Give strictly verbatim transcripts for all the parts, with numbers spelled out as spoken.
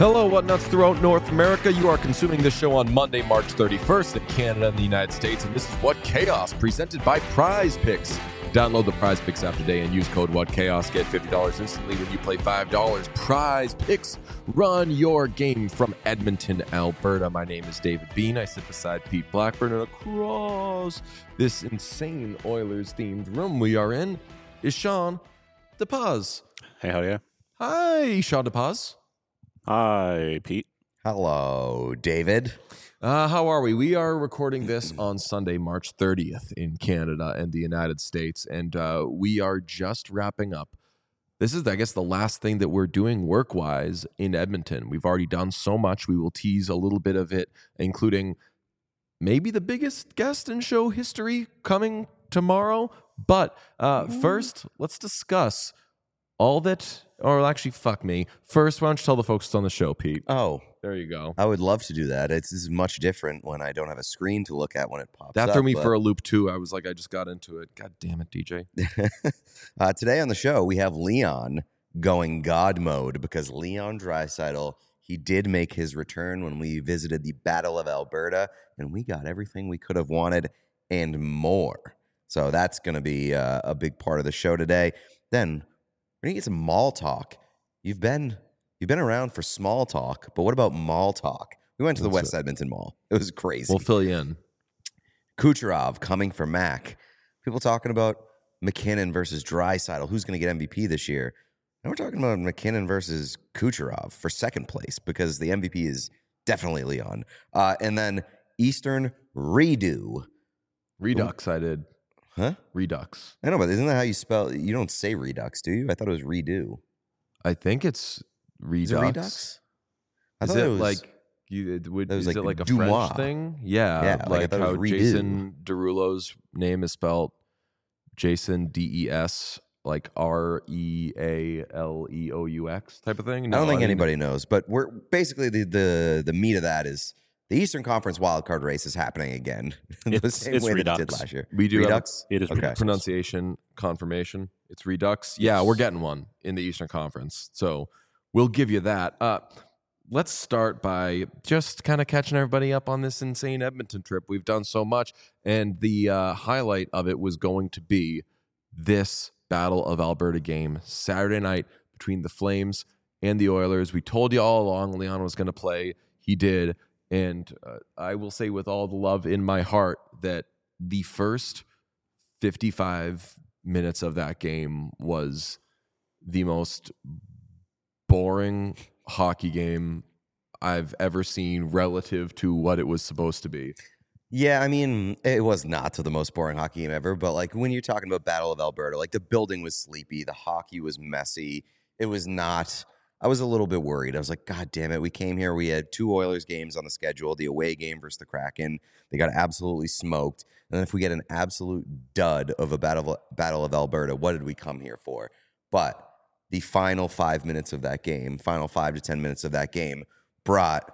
Hello, what nuts throughout North America. You are consuming this show on Monday, March thirty-first in Canada and the United States, and this is What Chaos, presented by Prize Picks. Download the Prize Picks app today and use code WhatChaos. Get fifty dollars instantly when you play five dollars. Prize Picks. Run your game from Edmonton, Alberta. My name is David Bean. I sit beside Pete Blackburn, and across this insane Oilers-themed room we are in is Sean DePaz. Hey, how are you? Hi, Sean DePaz. Hi, Pete. Hello, David. Uh, how are we? We are recording this on Sunday, March thirtieth in Canada and the United States, and uh, we are just wrapping up. This is, I guess, the last thing that we're doing work-wise in Edmonton. We've already done so much. We will tease a little bit of it, including maybe the biggest guest in show history coming tomorrow. But uh, first, let's discuss all that, or actually, fuck me. First, why don't you tell the folks on the show, Pete? Oh, There you go. I would love to do that. It's, it's much different when I don't have a screen to look at when it pops That up. threw me but- for a loop, too. I was like, I just got into it. God damn it, D J. uh, today on the show, we have Leon going God mode because Leon Draisaitl, he did make his return when we visited the Battle of Alberta, and we got everything we could have wanted and more. So that's going to be uh, a big part of the show today. Then we're going to get some mall talk. You've been you've been around for small talk, but what about mall talk? We went to the What's West Edmonton Mall. It was crazy. We'll fill you in. Kucherov coming for Mac. People talking about McKinnon versus Draisaitl. Who's going to get M V P this year? And we're talking about McKinnon versus Kucherov for second place because the M V P is definitely Leon. Uh, and then Eastern redo. Redux, I did. Huh? Redux. I know, but isn't that how you spell? You don't say redux, do you? I thought it was redo. I think it's Redux. Is it redux? I Is thought it, was, like you? It would, that was is like it like a Dumois. French thing? Yeah, Yeah, like I like thought it how was redo. Jason Derulo's name is spelled Jason D E S, like R E A L E O U X type of thing. I don't think didn't- anybody knows, but we're basically the the the meat of that is the Eastern Conference wildcard race is happening again. the It's- same it's way that it Redux. did last year. We do have Redux. It is Okay. Redux. pronunciation confirmation. It's Redux. Yeah, we're getting one in the Eastern Conference, so we'll give you that. Uh, let's start by just kind of catching everybody up on this insane Edmonton trip. We've done so much, and the uh, highlight of it was going to be this Battle of Alberta game Saturday night between the Flames and the Oilers. We told you all along Leon was going to play. He did, and uh, I will say with all the love in my heart that the first fifty-five minutes of that game was the most boring hockey game I've ever seen relative to what it was supposed to be. Yeah, I mean, it was not to the most boring hockey game ever, but like when you're talking about Battle of Alberta, like the building was sleepy, the hockey was messy. It was not. I was a little bit worried. I was like, God damn it. We came here. We had two Oilers games on the schedule, the away game versus the Kraken. They got absolutely smoked. And then if we get an absolute dud of a battle, battle of Alberta, what did we come here for? But the final five minutes of that game, final five to ten minutes of that game brought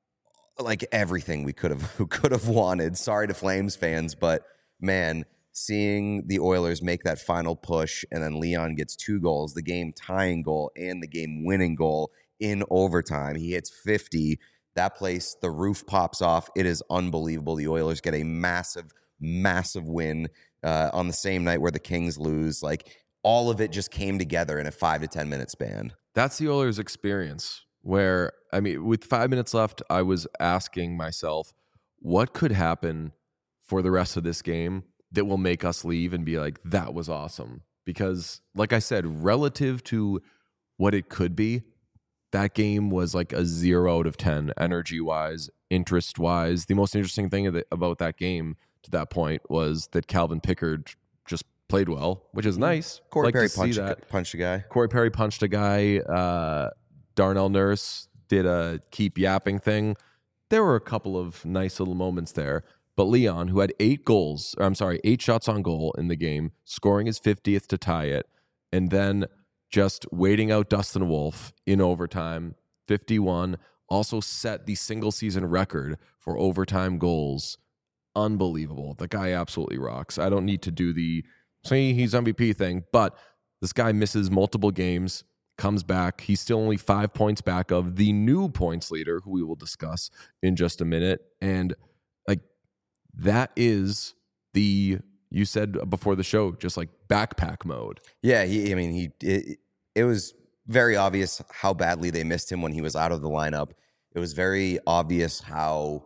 like everything we could have could have wanted. Sorry to Flames fans, but man, seeing the Oilers make that final push and then Leon gets two goals, the game tying goal and the game winning goal in overtime. He hits fifty. That place, the roof pops off. It is unbelievable. The Oilers get a massive, massive win uh, on the same night where the Kings lose. Like all of it just came together in a five to ten minute span. That's the Oilers experience where, I mean, with five minutes left, I was asking myself, what could happen for the rest of this game that will make us leave and be like, that was awesome? Because, like I said, relative to what it could be, that game was like a zero out of ten, energy-wise, interest-wise. The most interesting thing of the, about that game to that point was that Calvin Pickard just played well, which is nice. Corey Like to Perry see punched, that. a, punched a guy. Corey Perry punched a guy. Uh, Darnell Nurse did a keep yapping thing. There were a couple of nice little moments there. But Leon, who had eight goals, or I'm sorry, eight shots on goal in the game, scoring his fiftieth to tie it, and then just waiting out Dustin Wolf in overtime, fifty-one, also set the single season record for overtime goals. Unbelievable. The guy absolutely rocks. I don't need to do the, say he's M V P thing, but this guy misses multiple games. comes back. He's still only five points back of the new points leader, who we will discuss in just a minute. And like that is the, you said before the show, just like backpack mode. Yeah, he, I mean, he it, it was very obvious how badly they missed him when he was out of the lineup. It was very obvious how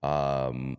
um,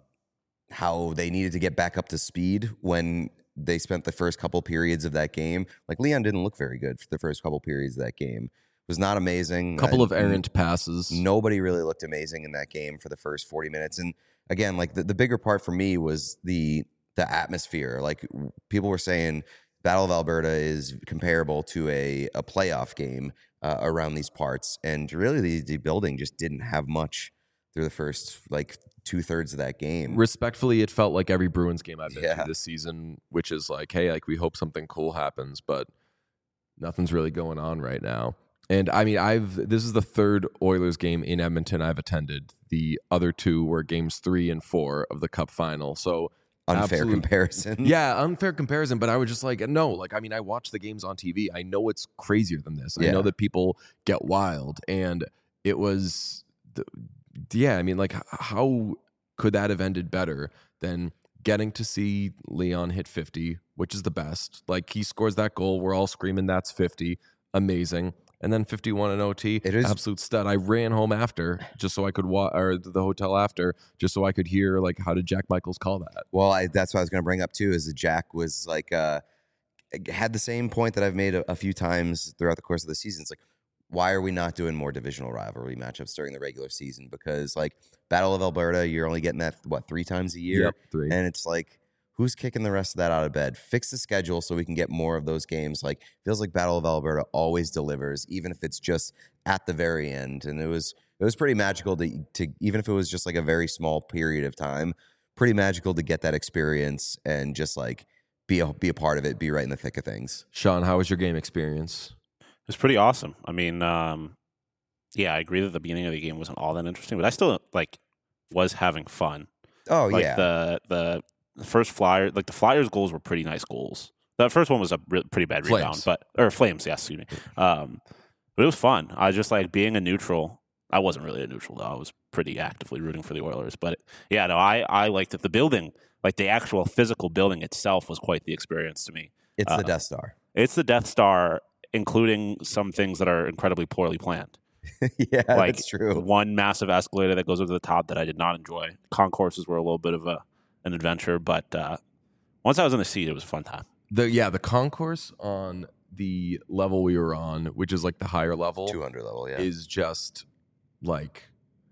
how they needed to get back up to speed when they spent the first couple periods of that game. Like Leon didn't look very good for the first couple periods of that game. It was not amazing. Couple Uh, of errant passes. Nobody really looked amazing in that game for the first forty minutes. And again, like the, the bigger part for me was the the atmosphere. Like people were saying Battle of Alberta is comparable to a, a playoff game uh, around these parts. And really the, the building just didn't have much through the first like two thirds of that game. Respectfully, it felt like every Bruins game I've been Yeah. to this season, which is like, hey, like we hope something cool happens, but nothing's really going on right now. And I mean, I've this is the third Oilers game in Edmonton I've attended. The other two were games three and four of the Cup final. So Unfair absolute- comparison. Yeah, unfair comparison. But I was just like, no, like I mean, I watch the games on T V. I know it's crazier than this. I Yeah. know that people get wild, and it was, the, yeah. I mean, like, h- how could that have ended better than getting to see Leon hit fifty, which is the best. Like he scores that goal, we're all screaming that's fifty, amazing. And then fifty-one in O T, It is- absolute stud. I ran home after just so I could wa- or the hotel after just so I could hear like how did Jack Michaels call that? Well, I, that's what I was going to bring up too. Is that Jack was like uh, had the same point that I've made a, a few times throughout the course of the season. It's like, why are we not doing more divisional rivalry matchups during the regular season? Because like Battle of Alberta, you're only getting that what three times a year, Yep, three. and it's like, who's kicking the rest of that out of bed? Fix the schedule so we can get more of those games. Like feels like Battle of Alberta always delivers, even if it's just at the very end. And it was it was pretty magical to to even if it was just like a very small period of time, pretty magical to get that experience and just like be a be a part of it, be right in the thick of things. Sean, how was your game experience? It was pretty awesome. I mean, um, yeah, I agree that the beginning of the game wasn't all that interesting, but I still like was having fun. Oh like yeah, the the the first Flyer, like the Flyers' goals were pretty nice goals. The first one was a re- pretty bad rebound, Flames. but or Flames, yes, excuse me. Um, but it was fun. I just like being a neutral. I wasn't really a neutral though. I was pretty actively rooting for the Oilers, but yeah, no, I I liked it. The building, like the actual physical building itself, was quite the experience to me. it's uh, the Death Star. It's the Death Star, including some things that are incredibly poorly planned. Yeah, Like that's true. one massive escalator that goes over the top that I did not enjoy. Concourses were a little bit of a an adventure, but uh, once I was in the seat, it was a fun time. The yeah, the concourse on the level we were on, which is like the higher level, two hundred level, yeah. is just like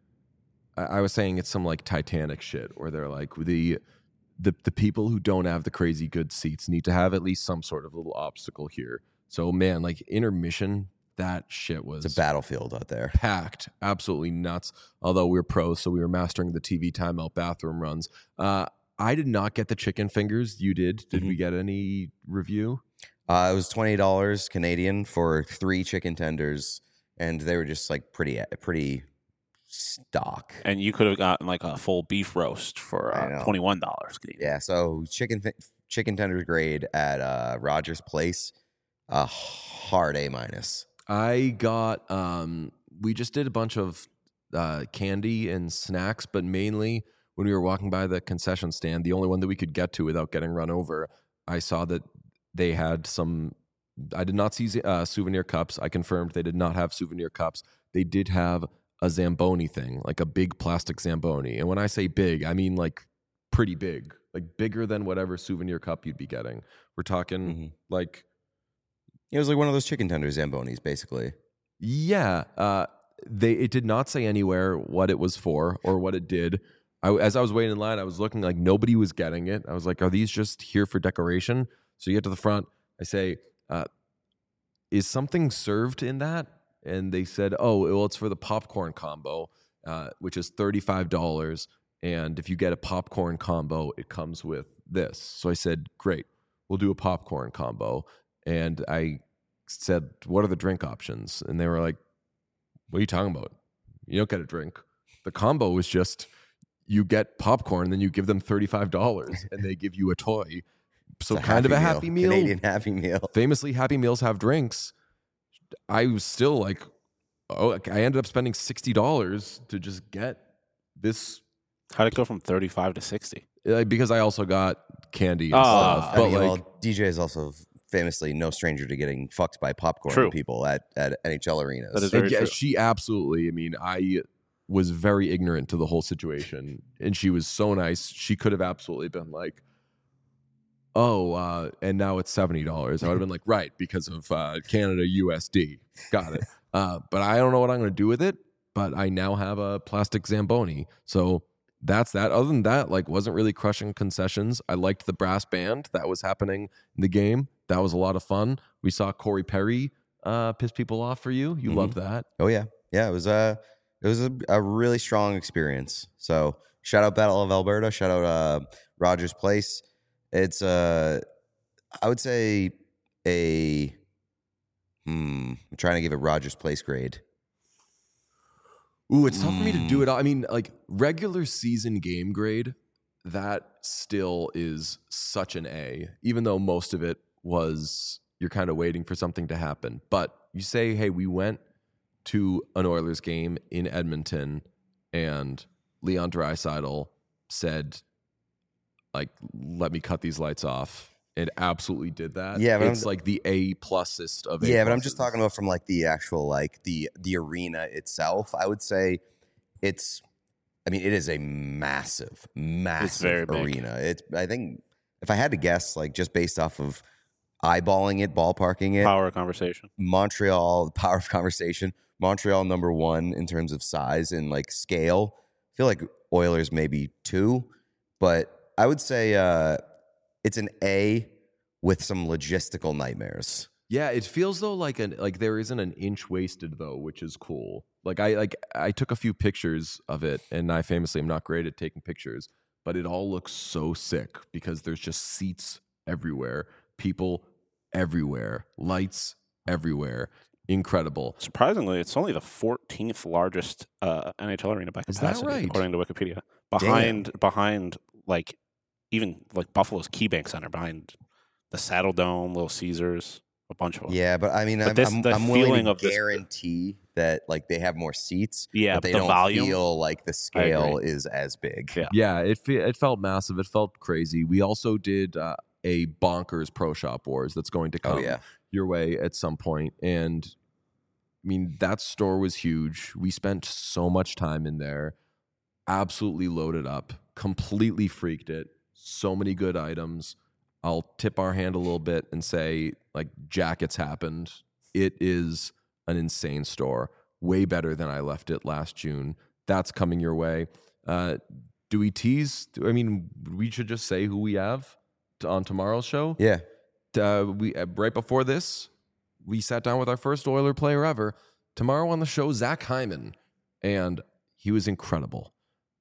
I, I was saying it's some like Titanic shit where they're like the the the people who don't have the crazy good seats need to have at least some sort of little obstacle here. So man, like intermission, that shit was It's a battlefield out there. packed, absolutely nuts. Although we were pros, so we were mastering the T V timeout bathroom runs. Uh, I did not get the chicken fingers. You did. Did Mhm. we get any review? Uh, it was twenty dollars Canadian for three chicken tenders, and they were just like pretty, pretty stock. And you could have gotten like a full beef roast for I uh, know. twenty one dollars. Yeah, so chicken fi- chicken tenders grade at uh, Rogers Place, a hard A minus. I got. Um, we just did a bunch of uh, candy and snacks, but mainly when we were walking by the concession stand, the only one that we could get to without getting run over, I saw that they had some. I did not see uh, souvenir cups. I confirmed they did not have souvenir cups. They did have a Zamboni thing, like a big plastic Zamboni. And when I say big, I mean like pretty big, like bigger than whatever souvenir cup you'd be getting. We're talking Mhm. like, It was like one of those chicken tender Zambonis, basically. yeah. Uh, they it did not say anywhere what it was for or what it did. I, as I was waiting in line, I was looking like nobody was getting it. I was like, are these just here for decoration? So you get to the front. I say, uh, is something served in that? And they said, oh, well, it's for the popcorn combo, uh, which is thirty-five dollars. And if you get a popcorn combo, it comes with this. So I said, great, we'll do a popcorn combo. And I said, what are the drink options? And they were like, what are you talking about? You don't get a drink. The combo is just you get popcorn, then you give them thirty-five dollars and they give you a toy. So It's kind of a happy meal. Canadian Happy Meal. Famously, Happy Meals have drinks. I was still like, oh, I ended up spending sixty dollars to just get this. How'd it go from thirty-five to sixty? Uh, because I also got candy and Oh, stuff. I But mean, like, well, D J is also famously no stranger to getting fucked by popcorn True. people at, at N H L arenas. That is and very yeah, true. she absolutely. I mean, I was very ignorant to the whole situation, and she was so nice. She could have absolutely been like, "Oh, uh, and now it's seventy dollars." I would have been like, "Right," because of uh, Canada U S D. Got it. Uh, but I don't know what I'm going to do with it. But I now have a plastic Zamboni, so that's that. Other than that, like, wasn't really crushing concessions. I liked the brass band that was happening in the game. That was a lot of fun. We saw Corey Perry uh, piss people off for you. You Mhm. loved that. Oh yeah, yeah. It was a it was a, a really strong experience. So shout out Battle of Alberta. Shout out uh, Rogers Place. It's uh, I would say a hmm. I'm trying to give it Rogers Place grade. Ooh, it's tough for me to Mm. do it. I mean, like regular season game grade, that still is such an A, even though most of it was you're kind of waiting for something to happen. But you say, hey, we went to an Oilers game in Edmonton and Leon Draisaitl said, like, let me cut these lights off. It absolutely did that. Yeah, but it's I'm- like the A plusest of A Yeah, but I'm just pluses. talking about from like the actual like the the arena itself. I would say it's. I mean, it is a massive, massive very big. arena. It's. I think if I had to guess, like just based off of eyeballing it, ballparking it, Power conversation. Montreal, the power of conversation. Montreal number one in terms of size and like scale. I feel like Oilers maybe two, but I would say uh, it's an A with some logistical nightmares. Yeah, it feels though like an like there isn't an inch wasted though, which is cool. Like I like I took a few pictures of it, and I famously am not great at taking pictures, but it all looks so sick because there's just seats everywhere, people everywhere, lights everywhere. Incredible. Surprisingly, it's only the fourteenth largest uh, N H L arena by Is that capacity, right? according to Wikipedia. Behind, behind, like even like Buffalo's KeyBank Center, behind the Saddle Dome, Little Caesars, a bunch of them. Yeah, but I mean, But I'm, this- I'm, the I'm willing feeling to of this- guarantee that like they have more seats, Yeah, but they the don't volume. feel like the I scale agree. is as big. Yeah. Yeah, it fe- it felt massive. It felt crazy. We also did uh, a bonkers Pro Shop Wars that's going to come Oh yeah, your way at some point. And I mean, that store was huge. We spent so much time in there, absolutely loaded up, completely freaked it. So many good items. I'll tip our hand a little bit and say, like, jackets happened. It is an insane store. Way better than I left it last June. That's coming your way. Uh, do we tease? I mean, we should just say who we have to, on tomorrow's show. yeah. Uh, we uh, right before this, we sat down with our first Oiler player ever. Tomorrow on the show, Zach Hyman, and he was incredible.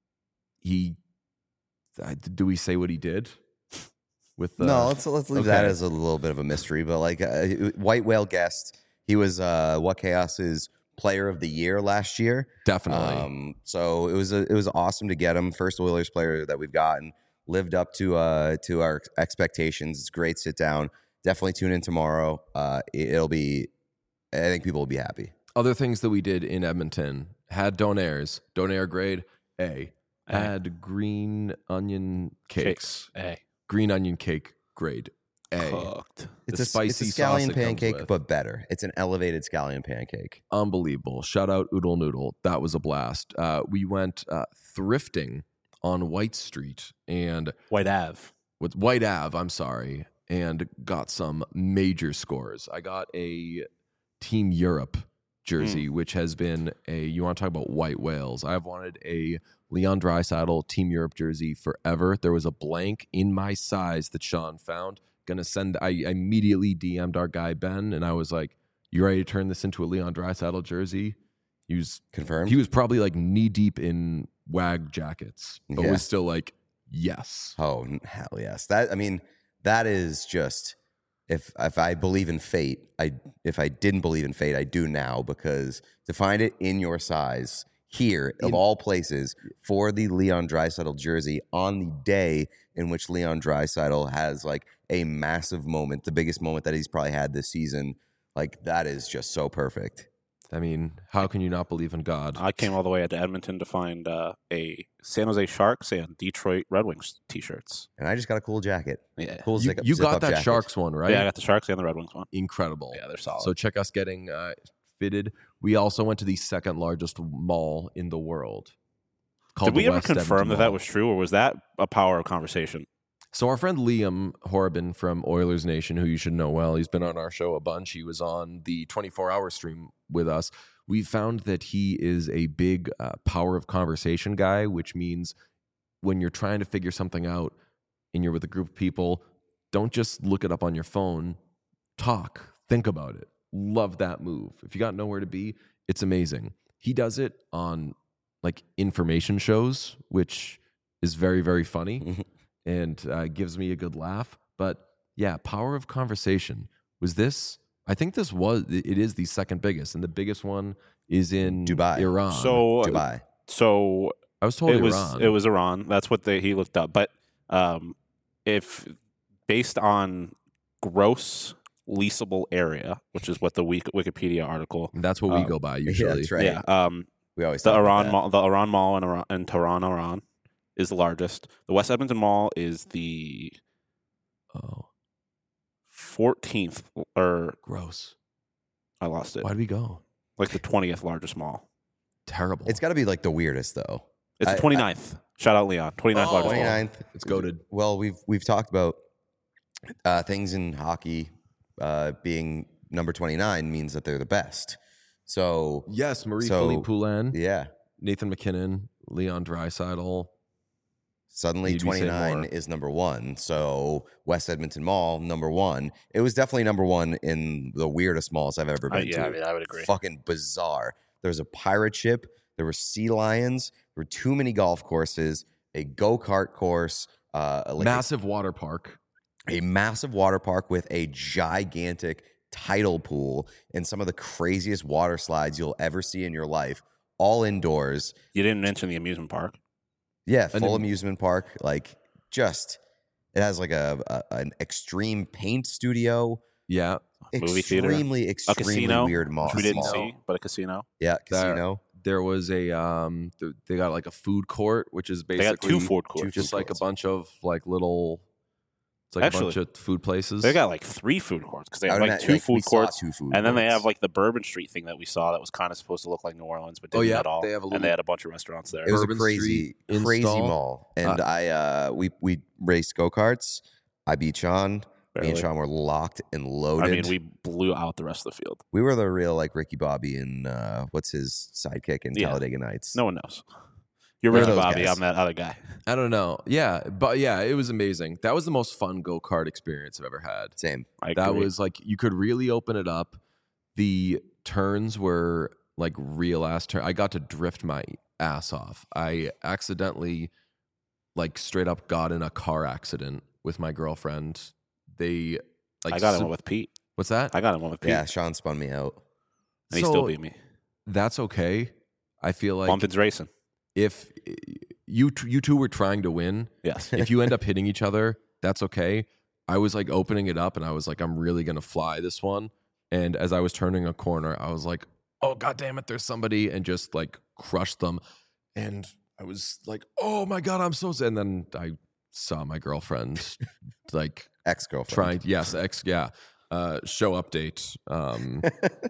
He, uh, do we say what he did? With the, no, let's let's leave that okay. as a little bit of a mystery. But like uh, White Whale guest, he was uh, What Chaos's Player of the Year last year. definitely. Um, so it was a, it was awesome to get him. First Oilers player that we've gotten, lived up to uh to our expectations. It's a great sit down. Definitely tune in tomorrow. Uh, it, it'll be. I think people will be happy. Other things that we did in Edmonton had Donairs, Donair grade A, A. had green onion cakes, Hey, green onion cake grade A. cooked. It's The a spicy it's a sauce scallion it comes pancake, with. but better. It's an elevated scallion pancake. Unbelievable. Shout out Oodle Noodle. That was a blast. Uh, we went uh, thrifting on White Street and White Ave. with White Ave, I'm sorry, and got some major scores. I got a Team Europe jersey, which has been a, you want to talk about white whales. I've wanted a Leon Draisaitl Team Europe jersey forever. There was a blank in my size that Sean found. Gonna send, I immediately D M'd our guy Ben, and I was like, you ready to turn this into a Leon Draisaitl jersey? He was, Confirmed. he was probably like knee deep in wag jackets, but Yeah. was still like, yes. Oh hell yes! That I mean, that is just if if I believe in fate, I if I didn't believe in fate, I do now, because to find it in your size here of In- all places for the Leon Draisaitl jersey on the day in which Leon Draisaitl has like a massive moment, the biggest moment that he's probably had this season. Like that is just so perfect. I mean, how can you not believe in God? I came all the way out to Edmonton to find uh, a San Jose Sharks and Detroit Red Wings T-shirts. And I just got a cool jacket. Yeah, Cool You, zip, you zip got up that jacket. Sharks one, right? yeah, I got the Sharks and the Red Wings one. Incredible. Yeah, they're solid. So check us getting uh, fitted. We also went to the second largest mall in the world. Called Did we the ever West confirm Edmonton that that Mall. was true, or was that a power of conversation? So our friend Liam Horabin from Oilers Nation, who you should know well, he's been on our show a bunch. He was on the twenty-four hour stream with us. We found that he is a big uh, power of conversation guy, which means when you're trying to figure something out and you're with a group of people, don't just look it up on your phone. Talk. Think about it. Love that move. If you got nowhere to be, it's amazing. He does it on like information shows, which is very, very funny. And uh, gives me a good laugh. But yeah, power of conversation. Was this? I think this was. It is the second biggest, and the biggest one is in Dubai. Iran. So, Dubai. so I was told it was Iran. it was Iran. That's what they, he looked up. But um, if based on gross leasable area, which is what the Wik- Wikipedia article, That's what we uh, go by Yeah, usually. that's right. yeah, um, We always the talk about Iran that. mall, the Iran Mall in Iran, in Tehran, Iran, is the largest. The West Edmonton Mall is the Oh, fourteenth, or gross. I lost it. Why did we go? Like the twentieth largest mall. Terrible. It's got to be like the weirdest though. It's I- the twenty-ninth. Shout out Leon. twenty-ninth Oh, largest mall. twenty-ninth. It's goated. Well, we've we've talked about uh, things in hockey uh, being number twenty-nine means that they're the best. So Yes, Marie So- Philippe Poulin, yeah, Nathan McKinnon, Leon Draisaitl. suddenly You'd be saying twenty-nine more. is number one. So West Edmonton Mall, number one. It was definitely number one in the weirdest malls I've ever Uh, been yeah, to. I mean, I would agree. Fucking bizarre. There was a pirate ship. There were sea lions. There were too many golf courses. A go kart course. Uh, like a- Massive water park. a massive water park with a gigantic tidal pool and some of the craziest water slides you'll ever see in your life, all indoors. You didn't mention the amusement park. Yeah, And full then- amusement park. Like, just it has like a, a an extreme paint studio. Yeah. Movie theater? Extremely, A extremely casino, weird mall. which we didn't mall. see, but a casino. Yeah, That- casino. There was a um. th- They got like a food court, which is They basically got two food courts. just food like a courts. bunch of like little. It's like Actually, a bunch of food places. They got like three food courts because they I have would like imagine, two we food saw courts, two food and then they courts. have like the Bourbon Street thing that we saw that was kind of supposed to look like New Orleans, but Oh, didn't yeah, at all. they have a and little- they had a bunch of restaurants there. It was Bourbon a crazy, Street crazy install. mall, and Uh, I uh we we raced go karts. I beat Sean. Me and Barely. Sean were locked and loaded. I mean, we blew out the rest of the field. We were the real like Ricky Bobby and uh, what's his sidekick in Yeah. Talladega Nights. No one knows. You're We're Ricky those Bobby. guys. I'm that other guy. I don't know. Yeah, but yeah, it was amazing. That was the most fun go kart experience I've ever had. Same. I That agree. was like you could really open it up. The turns were like real ass turn. I got to drift my ass off. I accidentally, like, straight up got in a car accident with my girlfriend. They like I got so- him with Pete. what's that? I got him with Pete. Yeah, Sean spun me out. and he So, still beat me. That's okay. I feel like Bumpins racing. if you t- you two were trying to win, Yes. if you end up hitting each other, that's okay. I was like opening it up and I was like, I'm really gonna fly this one. And as I was turning a corner, I was like, oh god damn it, there's somebody, and just like crushed them. And I was like, oh my god, I'm so sad. And then I saw my girlfriend like Ex girlfriend. trying yes, ex yeah. Uh show update. Um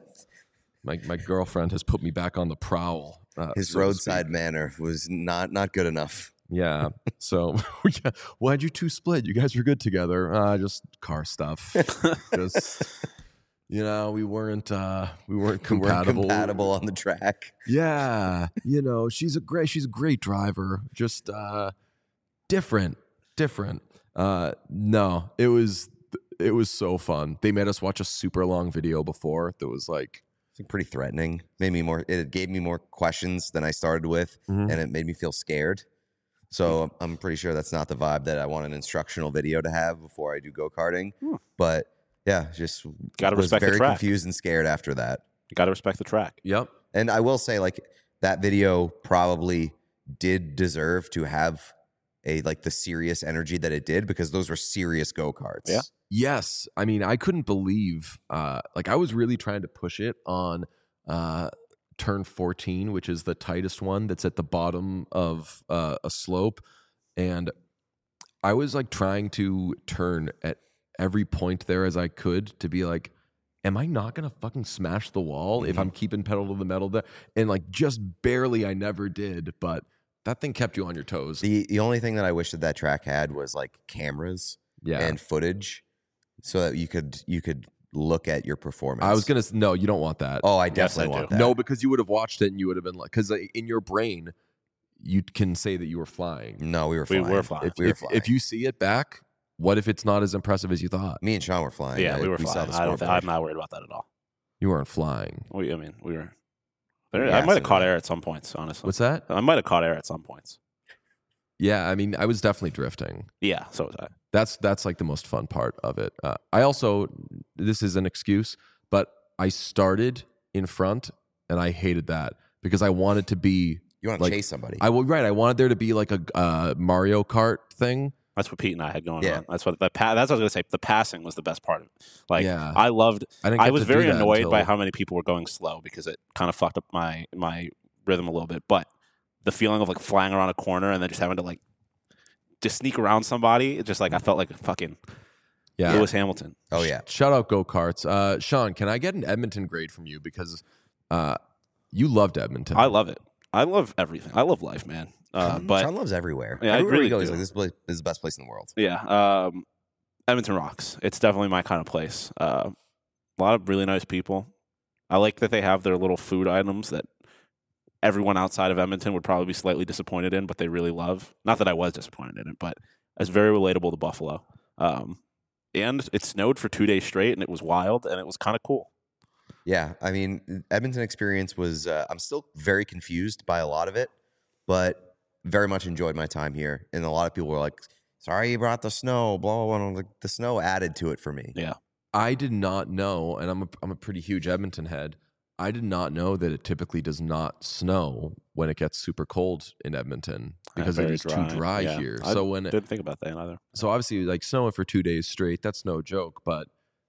my my girlfriend has put me back on the prowl. Uh, His so to roadside speak. manner was not not good enough. Yeah. So yeah. Why'd you two split? You guys were good together. Uh, just car stuff. Just you know, we weren't uh we weren't We weren't compatible. compatible on the track. Yeah. You know, she's a great she's a great driver. Just uh different. Different. Uh no, it was it was so fun. They made us watch a super long video before that was like It's pretty threatening. Made me more. It gave me more questions than I started with, Mhm. and it made me feel scared. So I'm pretty sure that's not the vibe that I want an instructional video to have before I do go karting. Hmm. But yeah, just Gotta was respect the very track. confused and scared after that. You got to respect the track. yep. And I will say, like, that video probably did deserve to have a like the serious energy that it did, because those were serious go karts. Yeah. Yes. I mean, I couldn't believe, uh, like, I was really trying to push it on uh, turn fourteen, which is the tightest one that's at the bottom of uh, a slope. And I was like trying to turn at every point there as I could to be like, am I not going to fucking smash the wall Mm-hmm. if I'm keeping pedal to the metal there? And like, just barely, I never did. But that thing kept you on your toes. The the only thing that I wish that that track had was like cameras Yeah. and footage, so that you could you could look at your performance. I was going to, no, you don't want that. Oh, I Yes, definitely I want do. that. No, because you would have watched it and you would have been like, because in your brain, you can say that you were flying. no, we were We flying. were flying. If, we were if, flying. if you see it back, what if it's not as impressive as you thought? Me and Sean were flying. Yeah, I- we were saw flying. the I don't. Th- scoreboard. I'm not worried about that at all. You weren't flying. We, I mean, we were. There, Yeah, I might have so caught that- air at some points. Honestly, What's that? I might have caught air at some points. Yeah, I mean, I was definitely drifting. Yeah, so was I. That's that's like the most fun part of it. Uh, I also, this is an excuse, but I started in front and I hated that because I wanted to be. You want to like, chase somebody? I will right. I wanted there to be like a uh, Mario Kart thing. That's what Pete and I had going Yeah. on. That's what the pa- that's what I was gonna say. The passing was the best part of it. Like Yeah. I loved. I didn't. I get was to do very that annoyed until- by how many people were going slow because it kind of fucked up my my rhythm a little bit. But the feeling of like flying around a corner and then just having to like just sneak around somebody, it just like I felt like a fucking Yeah. Lewis Hamilton. oh yeah. Shout out go karts. Uh, Sean, can I get an Edmonton grade from you because uh, you loved Edmonton. I love it. I love everything. I love life, man. Uh, but Sean loves everywhere. Yeah, I Everywhere really he goes, do. he's like, this place this is the best place in the world. yeah, um, Edmonton rocks. It's definitely my kind of place. Uh, a lot of really nice people. I like that they have their little food items that everyone outside of Edmonton would probably be slightly disappointed in, but they really love. Not that I was disappointed in it, but it's very relatable to Buffalo. Um, and it snowed for two days straight, and it was wild, and it was kind of cool. Yeah, I mean, Edmonton experience was. Uh, I'm still very confused by a lot of it, but very much enjoyed my time here. And a lot of people were like, "Sorry, you brought the snow." Blah blah blah. And I'm like, the snow added to it for me. Yeah. I did not know, and I'm a, I'm a pretty huge Edmonton head. I did not know that it typically does not snow when it gets super cold in Edmonton because it very is too dry Yeah. here. I So when it, didn't think about that either. so obviously like snowing for two days straight, that's no joke. But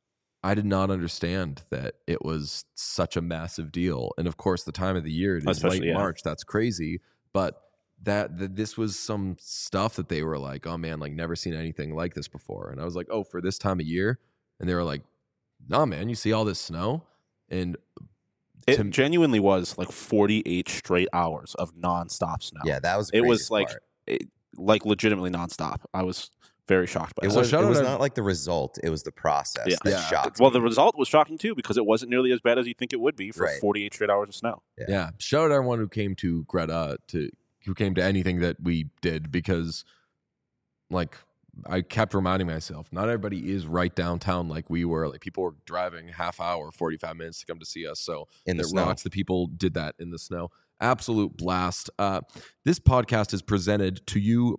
I did not understand that it was such a massive deal. And of course, the time of the year, it is Especially, late yeah. March. That's crazy. But that, that this was some stuff that they were like, oh man, like never seen anything like this before. And I was like, oh, for this time of year. And they were like, nah, man, you see all this snow? And It to- genuinely was like forty-eight straight hours of nonstop snow. Yeah, that was. The It was craziest like part. it, like legitimately nonstop. I was very shocked by It that. So was. shout It out was our- not like the result. It was the process Yeah. that Yeah. shocked. Well, me. the result was shocking too because it wasn't nearly as bad as you think it would be for Right. forty-eight straight hours of snow. Yeah. yeah, shout out everyone who came to Greta to who came to anything that we did because like I kept reminding myself, not everybody is right downtown like we were. Like people were driving half hour, forty-five minutes to come to see us. So in the it snow. rocks. The people did that in the snow. Absolute blast. Uh, this podcast is presented to you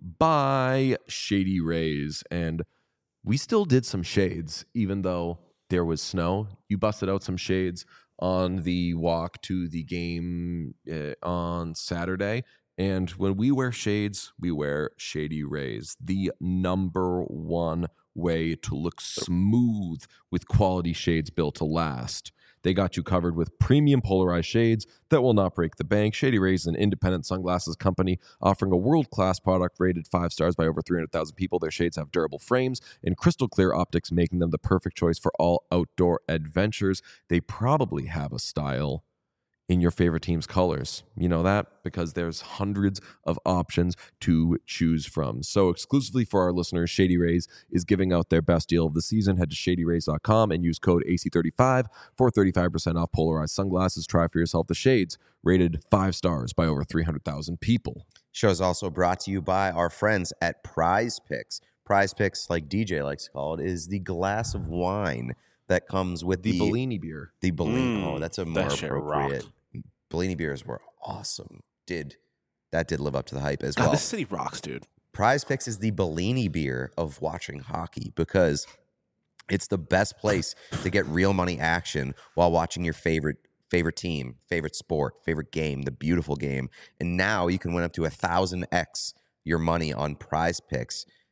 by Shady Rays, and we still did some shades, even though there was snow. You busted out some shades on the walk to the game uh, on Saturday. And when we wear shades, we wear Shady Rays, the number one way to look smooth with quality shades built to last. They got you covered with premium polarized shades that will not break the bank. Shady Rays is an independent sunglasses company offering a world-class product rated five stars by over three hundred thousand people. Their shades have durable frames and crystal clear optics, making them the perfect choice for all outdoor adventures. They probably have a style in your favorite team's colors. You know that because there's hundreds of options to choose from. So exclusively for our listeners, Shady Rays is giving out their best deal of the season. Head to shady rays dot com and use code A C thirty-five for thirty-five percent off polarized sunglasses. Try for yourself the shades rated five stars by over three hundred thousand people. Show is also brought to you by our friends at Prize Picks. Prize Picks, like D J likes to call it, is the glass of wine that comes with The, the Bellini beer. The Bellini. Mm, oh, that's a that more shit appropriate. Bellini beers were awesome. Did that did live up to the hype as God, well. this city rocks, dude. Prize Picks is the Bellini beer of watching hockey because it's the best place to get real money action while watching your favorite favorite team, favorite sport, favorite game, the beautiful game. And now you can win up to a thousand x your money on Prize Picks.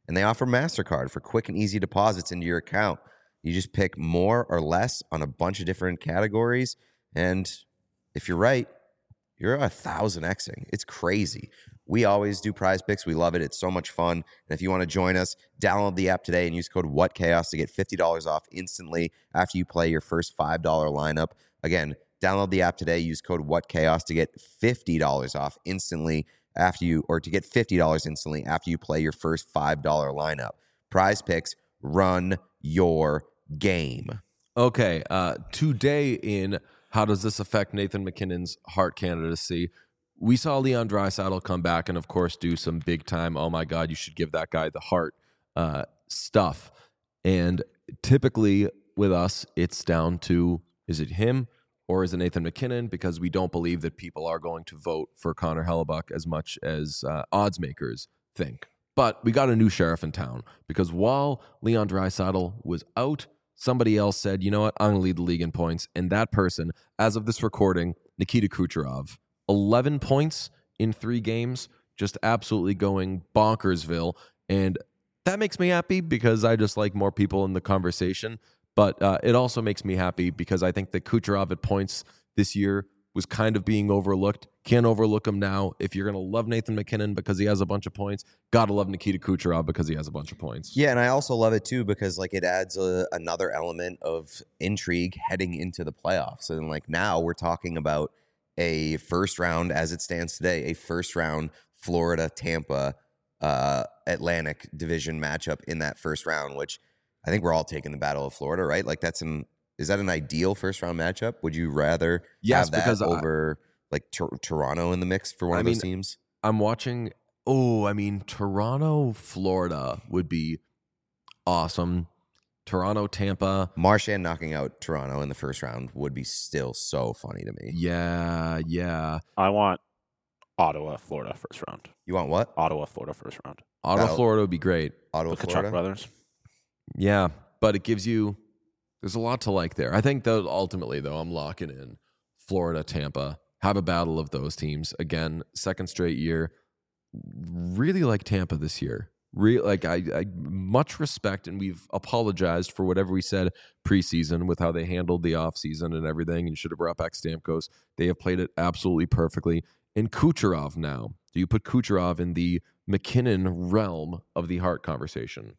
And they offer MasterCard for quick and easy deposits into your account. You just pick more or less on a bunch of different categories. And if you're right, you're a thousand Xing. It's crazy. We always do Prize Picks. We love it. It's so much fun. And if you want to join us, download the app today and use code WhatChaos to get fifty dollars off instantly after you play your first five dollars lineup. Again, download the app today. Use code WhatChaos to get fifty dollars off instantly after you, or to get fifty dollars instantly after you play your first five dollars lineup. Prize Picks, run your game. Okay, uh, today in How Does This Affect Nathan MacKinnon's Hart candidacy, we saw Leon Draisaitl come back and, of course, do some big-time, oh, my God, you should give that guy the Hart uh, stuff. And typically with us, it's down to, is it him or is it Nathan MacKinnon? Because we don't believe that people are going to vote for Connor Hellebuyck as much as uh, odds makers think. But we got a new sheriff in town because while Leon Draisaitl was out, somebody else said, you know what, I'm going to lead the league in points. And that person, as of this recording, Nikita Kucherov, eleven points in three games, just absolutely going bonkersville. And that makes me happy because I just like more people in the conversation. But uh, it also makes me happy because I think that Kucherov at points this year was kind of being overlooked. Can't overlook him now. If you're going to love Nathan MacKinnon because he has a bunch of points, got to love Nikita Kucherov because he has a bunch of points. Yeah, and I also love it too because like it adds a, another element of intrigue heading into the playoffs. And like now we're talking about a first round, as it stands today, a first round Florida Tampa uh, Atlantic Division matchup in that first round, which I think we're all taking the Battle of Florida, right? Like that's an is that an ideal first round matchup? Would you rather yes, have that because over I, like Tor- Toronto in the mix for one I of mean, those teams? I'm watching. Oh, I mean, Toronto, Florida would be awesome. Toronto, Tampa. Marchand knocking out Toronto in the first round would be still so funny to me. Yeah, yeah. I want Ottawa, Florida first round. You want what? Ottawa, Florida first round. Ottawa, Battle- Florida would be great. Ottawa, The Kachuk Florida? brothers. Yeah, but it gives you, there's a lot to like there. I think that ultimately, though, I'm locking in Florida, Tampa. Have a battle of those teams. Again, second straight year. Really like Tampa this year. Real like I, I much respect, and we've apologized for whatever we said preseason with how they handled the offseason and everything. And you should have brought back Stamkos. They have played it absolutely perfectly. And Kucherov now. Do you put Kucherov in the MacKinnon realm of the Hart conversation?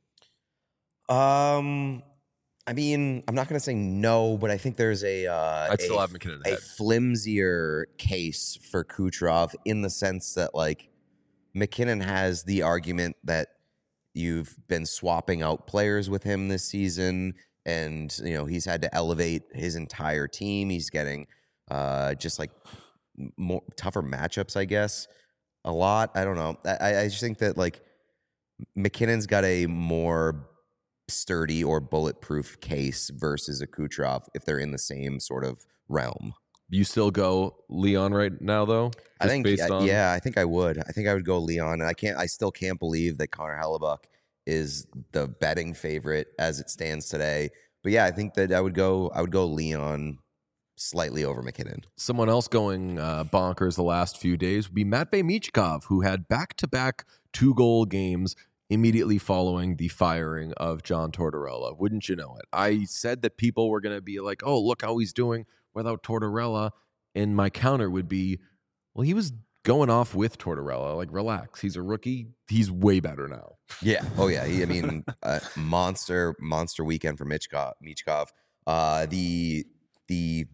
Um, I mean, I'm not going to say no, but I think there's a uh, I'd still a, have MacKinnon a ahead. flimsier case for Kucherov in the sense that like MacKinnon has the argument that you've been swapping out players with him this season, and you know he's had to elevate his entire team. He's getting uh, just like more tougher matchups, I guess. A lot. I don't know. I, I just think that like MacKinnon's got a more sturdy or bulletproof case versus a Kucherov if they're in the same sort of realm. You still go Leon right now, though? I Just think, based on- yeah, I think I would. I think I would go Leon, and I can't. I still can't believe that Connor Hellebuyck is the betting favorite as it stands today. But yeah, I think that I would go. I would go Leon slightly over MacKinnon. Someone else going uh, bonkers the last few days would be Matvei Michkov, who had back-to-back two-goal games immediately following the firing of John Tortorella. Wouldn't you know it? I said that people were going to be like, oh, look how he's doing without Tortorella. And my counter would be, well, he was going off with Tortorella. Like, relax. He's a rookie. He's way better now. Yeah. Oh yeah. He, I mean, uh, monster, monster weekend for Michkov. Michkov. Uh, the the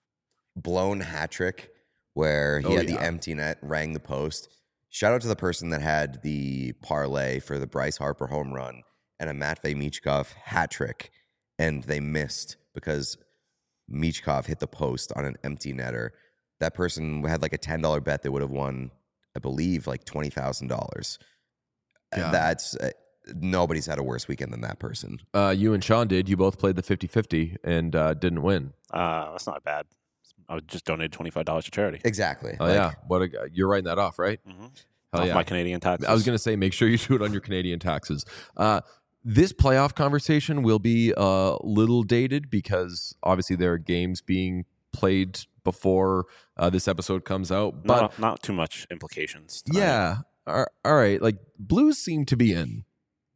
blown hat trick where he Oh, had yeah. the empty net, rang the post. Shout out to the person that had the parlay for the Bryce Harper home run and a Matvei Michkov hat trick, and they missed because Michkov hit the post on an empty netter. That person had like a ten dollar bet that would have won, I believe, like twenty thousand dollars. Yeah. That's uh, nobody's had a worse weekend than that person. Uh, you and Sean did. You both played the fifty-fifty and uh, didn't win. Uh, that's not bad. I would just donate twenty-five dollars to charity. Exactly. Oh, Like, yeah. What a, you're writing that off, right? Mm-hmm. Hell Off yeah. my Canadian taxes. I was going to say, make sure you do it on your Canadian taxes. Uh, this playoff conversation will be a little dated because obviously there are games being played before uh, this episode comes out. But not, not too much implications. tonight. yeah, all all right. Like Blues seem to be in.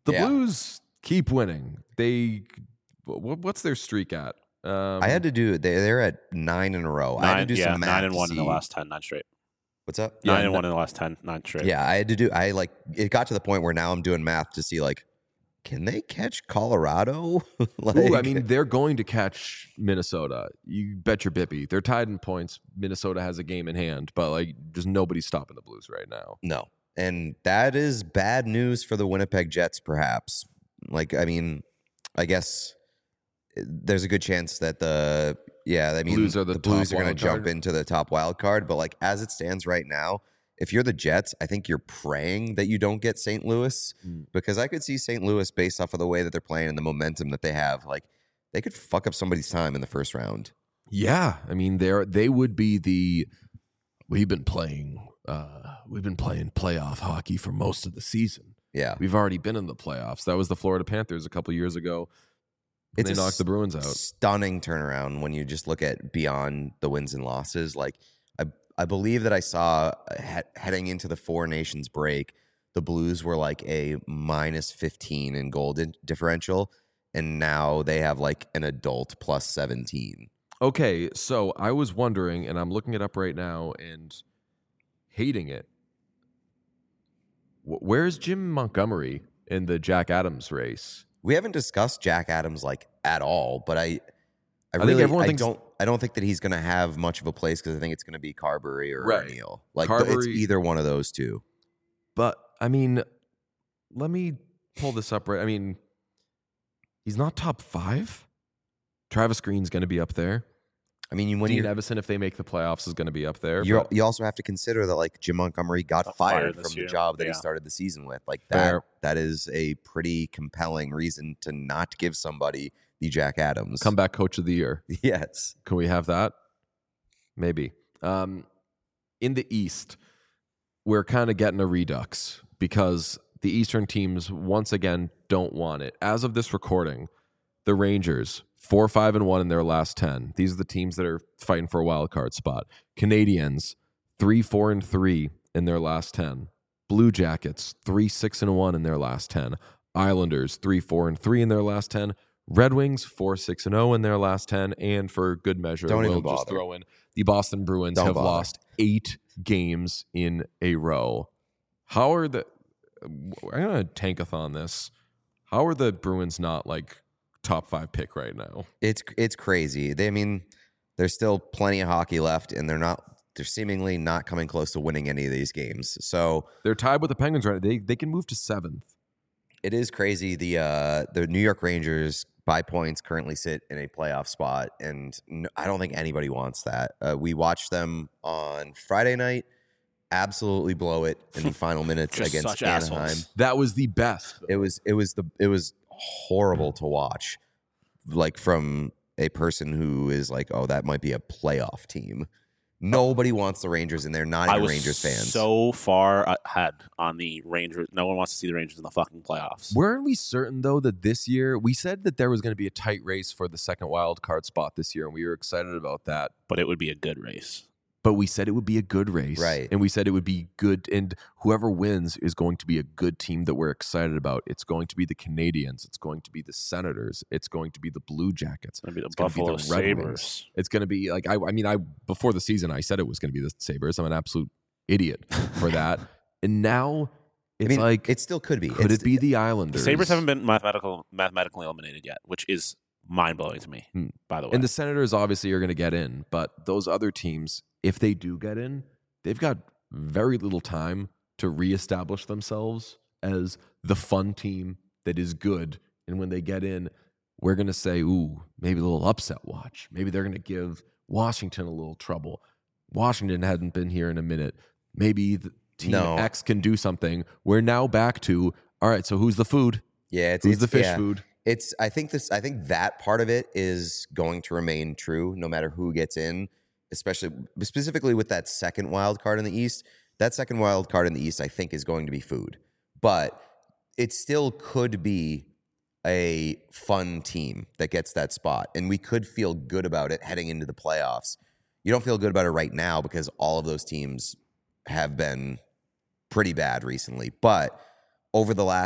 The Yeah. Blues keep winning. They wh- what's their streak at? Um, I had to do. They they're at nine in a row. I had to Nine, do yeah, some math nine and to one in the see- last ten, nine straight. What's up? Yeah, Nine and no- one in the last ten, nine straight. Yeah, I had to do. I like. It got to the point where now I'm doing math to see like, can they catch Colorado? like, Ooh, I mean, they're going to catch Minnesota. You bet your bippy. They're tied in points. Minnesota has a game in hand, but like, there's nobody stopping the Blues right now. no, and that is bad news for the Winnipeg Jets. Perhaps, like, I mean, I guess there's a good chance that the yeah, I mean, Blues are the Blues top are going to wild jump card. into the top wild card. But like as it stands right now, if you're the Jets, I think you're praying that you don't get Saint Louis Mm. because I could see Saint Louis based off of the way that they're playing and the momentum that they have. Like they could fuck up somebody's time in the first round. Yeah, I mean, they're they would be the. We've been playing. Uh, we've been playing playoff hockey for most of the season. Yeah, We've already been in the playoffs. That was the Florida Panthers a couple years ago. It's They a knocked the Bruins out. Stunning turnaround when you just look at beyond the wins and losses. Like I, I believe that I saw uh, he- heading into the Four Nations break, the Blues were like a minus fifteen in goal di- differential, and now they have like an adult plus seventeen. Okay, so I was wondering, and I'm looking it up right now and hating it. Wh- Where's Jim Montgomery in the Jack Adams race? We haven't discussed Jack Adams like at all, but I, I, I think really, everyone I thinks- don't, I don't think that he's going to have much of a place because I think it's going to be Carberry or Right. Neal. Like it's Carberry- either one of those two. But I mean, let me pull this up right. I mean, he's not top five. Travis Green's going to be up there. I mean, when Dean you Evison, if they make the playoffs, is going to be up there. you but- you also have to consider that like Jim Montgomery got Got fired fired from this the year. job that he Yeah. started the season with. Like Fair. that, that is a pretty compelling reason to not give somebody the Jack Adams. comeback coach of the year. Yes. Can we have that? Maybe. Um, in the East, we're kind of getting a redux because the Eastern teams once again don't want it. As of this recording, the Rangers four, five, and one in their last ten. These are the teams that are fighting for a wild card spot. Canadians three, four, and three in their last ten. Blue Jackets three, six, and one in their last ten. Islanders three, four, and three in their last ten. Red Wings four, six, and zero in their last ten. And for good measure, Don't we'll even just bother. throw in the Boston Bruins Don't have bother. lost eight games in a row. How are the? I'm gonna tankathon this. How are the Bruins not like top five pick right now? It's it's crazy. They I mean, there's still plenty of hockey left, and they're not. They're seemingly not coming close to winning any of these games. So They're tied with the Penguins right now. They they can move to seventh. it is crazy. The uh, the New York Rangers by points currently sit in a playoff spot, and n- I don't think anybody wants that. Uh, we watched them on Friday night, absolutely blow it in the final minutes Just against such Anaheim. assholes. That was the best. It was it was the it was horrible to watch, like from a person who is like, oh, that might be a playoff team. Nobody wants the Rangers, and they're not I even was Rangers fans. so far ahead on the Rangers. No one wants to see the Rangers in the fucking playoffs. Weren't we certain though that this year we said that there was going to be a tight race for the second wild card spot this year, and we were excited about that. But it would be a good race. But we said it would be a good race, Right. And we said it would be good, and whoever wins is going to be a good team that we're excited about. It's going to be the Canadians. It's going to be the Senators. It's going to be the Blue Jackets. It's going to be the It's gonna be Buffalo the Red Wings. Sabres. It's going to be like I. I mean, I before the season, I said it was going to be the Sabres. I'm an absolute idiot for that, and now I it's mean, like it still could be. could It's- it be the The Islanders? Sabres haven't been mathematical, mathematically eliminated yet, which is mind blowing to me, Hmm. by the way. And the Senators obviously are going to get in, but those other teams, if they do get in, they've got very little time to reestablish themselves as the fun team that is good. And when they get in, we're going to say, ooh, maybe a little upset watch. Maybe they're going to give Washington a little trouble. Washington hadn't been here in a minute. Maybe the team No. X can do something. We're now back to, all right, so who's the food? yeah, it's Who's it's, the fish yeah. food? It's I think this I think that part of it is going to remain true no matter who gets in, especially specifically with that second wild card in the East. That second wild card in the East I think is going to be food. But it still could be a fun team that gets that spot, and we could feel good about it heading into the playoffs. You don't feel good about it right now because all of those teams have been pretty bad recently, but over the last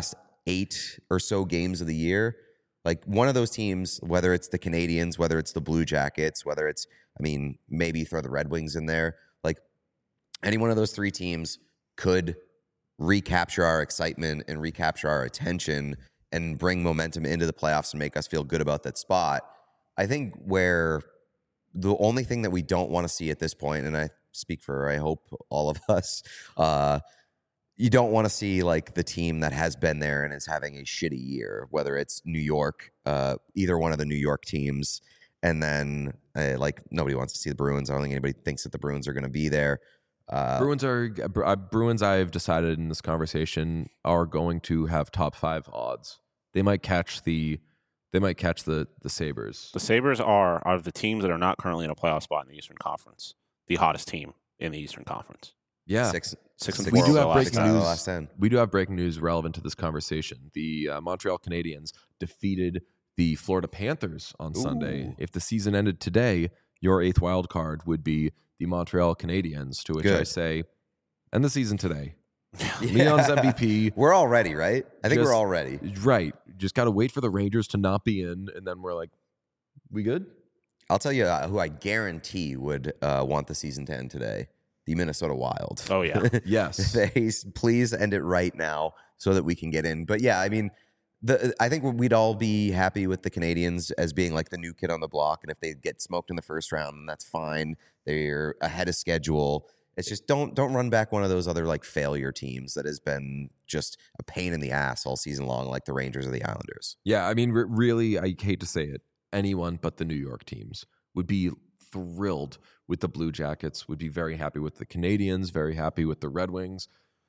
eight or so games of the year, like one of those teams, whether it's the Canadians, whether it's the Blue Jackets, whether it's, I mean, maybe throw the Red Wings in there, like any one of those three teams could recapture our excitement and recapture our attention and bring momentum into the playoffs and make us feel good about that spot. I think where the only thing that we don't want to see at this point, and I speak for, I hope, all of us, uh, you don't want to see like the team that has been there and is having a shitty year, whether it's New York, uh, either one of the New York teams. And then uh, like nobody wants to see the Bruins. I don't think anybody thinks that the Bruins are going to be there. Uh, Bruins are uh, Bruins. I've decided in this conversation are going to have top five odds. They might catch the, they might catch the the Sabres. The Sabres are out of the teams that are not currently in a playoff spot in the Eastern Conference, the hottest team in the Eastern Conference. Yeah, six, Six and six, we four do over have the breaking last out of the news. last ten. We do have breaking news relevant to this conversation. The uh, Montreal Canadiens defeated the Florida Panthers on Sunday. Ooh. If the season ended today, your eighth wild card would be the Montreal Canadiens, to which Good. I say, end the season today. Leon's M V P. We're all ready, right? I think Just- we're all ready. Right. Just got to wait for the Rangers to not be in, and then we're like, we good? I'll tell you uh, who I guarantee would uh, want the season to end today. The Minnesota Wild. Oh, yeah. Yes. They please end it right now so that we can get in. But yeah, I mean, the I think we'd all be happy with the Canadians as being like the new kid on the block, and if they get smoked in the first round, then that's fine. They're ahead of schedule. It's just don't don't run back one of those other like failure teams that has been just a pain in the ass all season long, like the Rangers or the Islanders. Yeah, I mean, re- really, I hate to say it, anyone but the New York teams would be thrilled with the Blue Jackets, would be very happy with the Canadians, very happy with the Red Wings.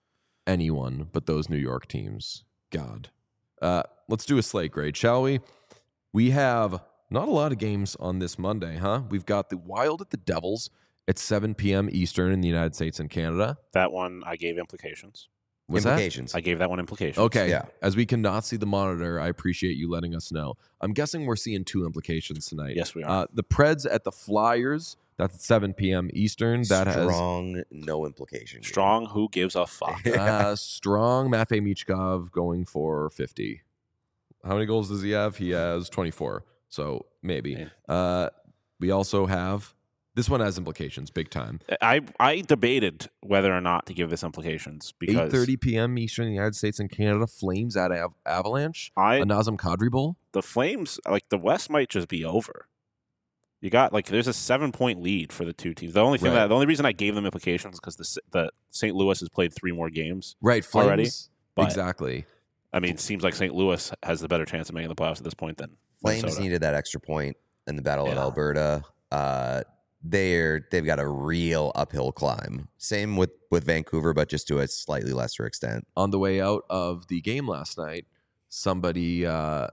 Anyone but those New York teams. God. Uh, let's do a slate grade, shall we? We have not a lot of games on this Monday, huh? We've got the Wild at the Devils at seven p.m. Eastern in the United States and Canada. That one, I gave implications. Was that? Implications. I gave that one implications. Okay. Yeah. As we cannot see the monitor, I appreciate you letting us know. I'm guessing we're seeing two implications tonight. Yes, we are. Uh, the Preds at the Flyers. That's at seven p.m. Eastern. That Strong, no implication. here. Strong, who gives a fuck? has uh, strong Matvei Michkov going for fifty. How many goals does he have? He has twenty-four. So maybe. Man. Uh, we also have this one has implications big time. I I debated whether or not to give this implications eight because thirty p.m. Eastern in the United States and Canada. Flames at Av- Avalanche. I A Nazem Kadri Bowl. the Flames, like the West might just be over. You got like there's a seven point lead for the two teams. The only thing Right. that the only reason I gave them implications because the S- the Saint Louis has played three more games. Right. Flames. Already? But- Exactly. I mean, it seems like Saint Louis has the better chance of making the playoffs at this point than Flames Minnesota. needed that extra point in the Battle of Yeah. Alberta. Uh, they're they've got a real uphill climb. Same with with Vancouver, but just to a slightly lesser extent. On the way out of the game last night, somebody uh,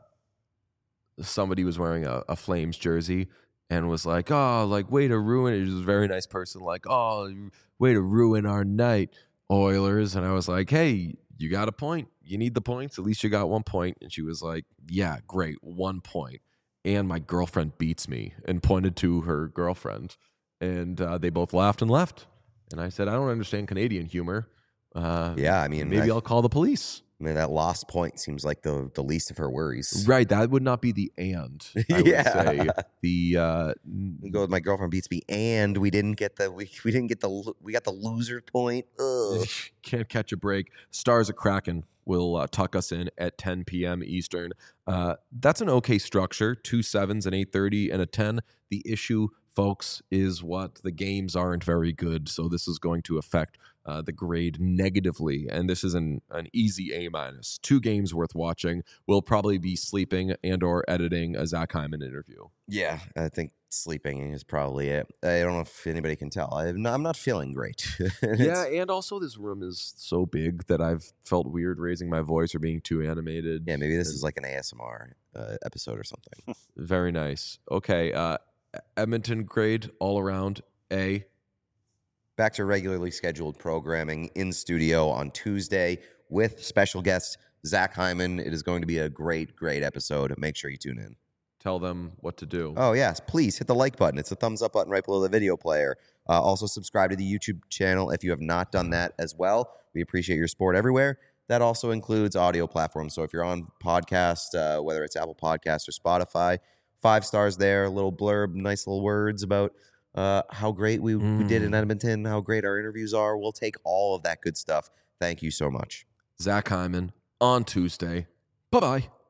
somebody was wearing a, a Flames jersey and was like, "Oh, like way to ruin it." He was a very nice person, like, "Oh, way to ruin our night, Oilers." And I was like, "Hey, you got a point. You need the points. At least you got one point." And she was like, "Yeah, great, one point." And my girlfriend beats me, and pointed to her girlfriend, and uh, they both laughed and left. And I said, "I don't understand Canadian humor. Uh, Yeah, I mean, maybe I, I'll call the police." I mean that lost point seems like the the least of her worries. Right, that would not be the and. I Yeah. would say the uh, We go with my girlfriend beats me, and we didn't get the we, we didn't get the lo- we got the loser point. Ugh. can't catch a break. Stars of Kraken will uh, tuck us in at ten p.m. Eastern. Uh, that's an okay structure. Two sevens, an eight thirty, and a ten. The issue, folks, is what the games aren't very good, so this is going to affect uh, the grade negatively. And this is an an easy A minus. Two games worth watching. We'll probably be sleeping and or editing a Zach Hyman interview. Yeah, I think sleeping is probably it. I don't know if anybody can tell. I'm not, I'm not feeling great. Yeah, and also this room is so big that I've felt weird raising my voice or being too animated. Yeah, maybe this is like an A S M R uh, episode or something. Very nice. Okay, uh, Edmonton grade all around A. Back to regularly scheduled programming in studio on Tuesday with special guest Zach Hyman. It is going to be a great, great episode. Make sure you tune in. Tell them what to do. Oh, yes. Please hit the like button. It's a thumbs up button right below the video player. Uh, also, subscribe to the YouTube channel if you have not done that as well. We appreciate your support everywhere. that also includes audio platforms. So if you're on podcast, uh, whether it's Apple Podcasts or Spotify, five stars there, a little blurb, nice little words about uh, how great we, mm. we did in Edmonton, how great our interviews are. We'll take all of that good stuff. Thank you so much. Zach Hyman on Tuesday. Bye-bye.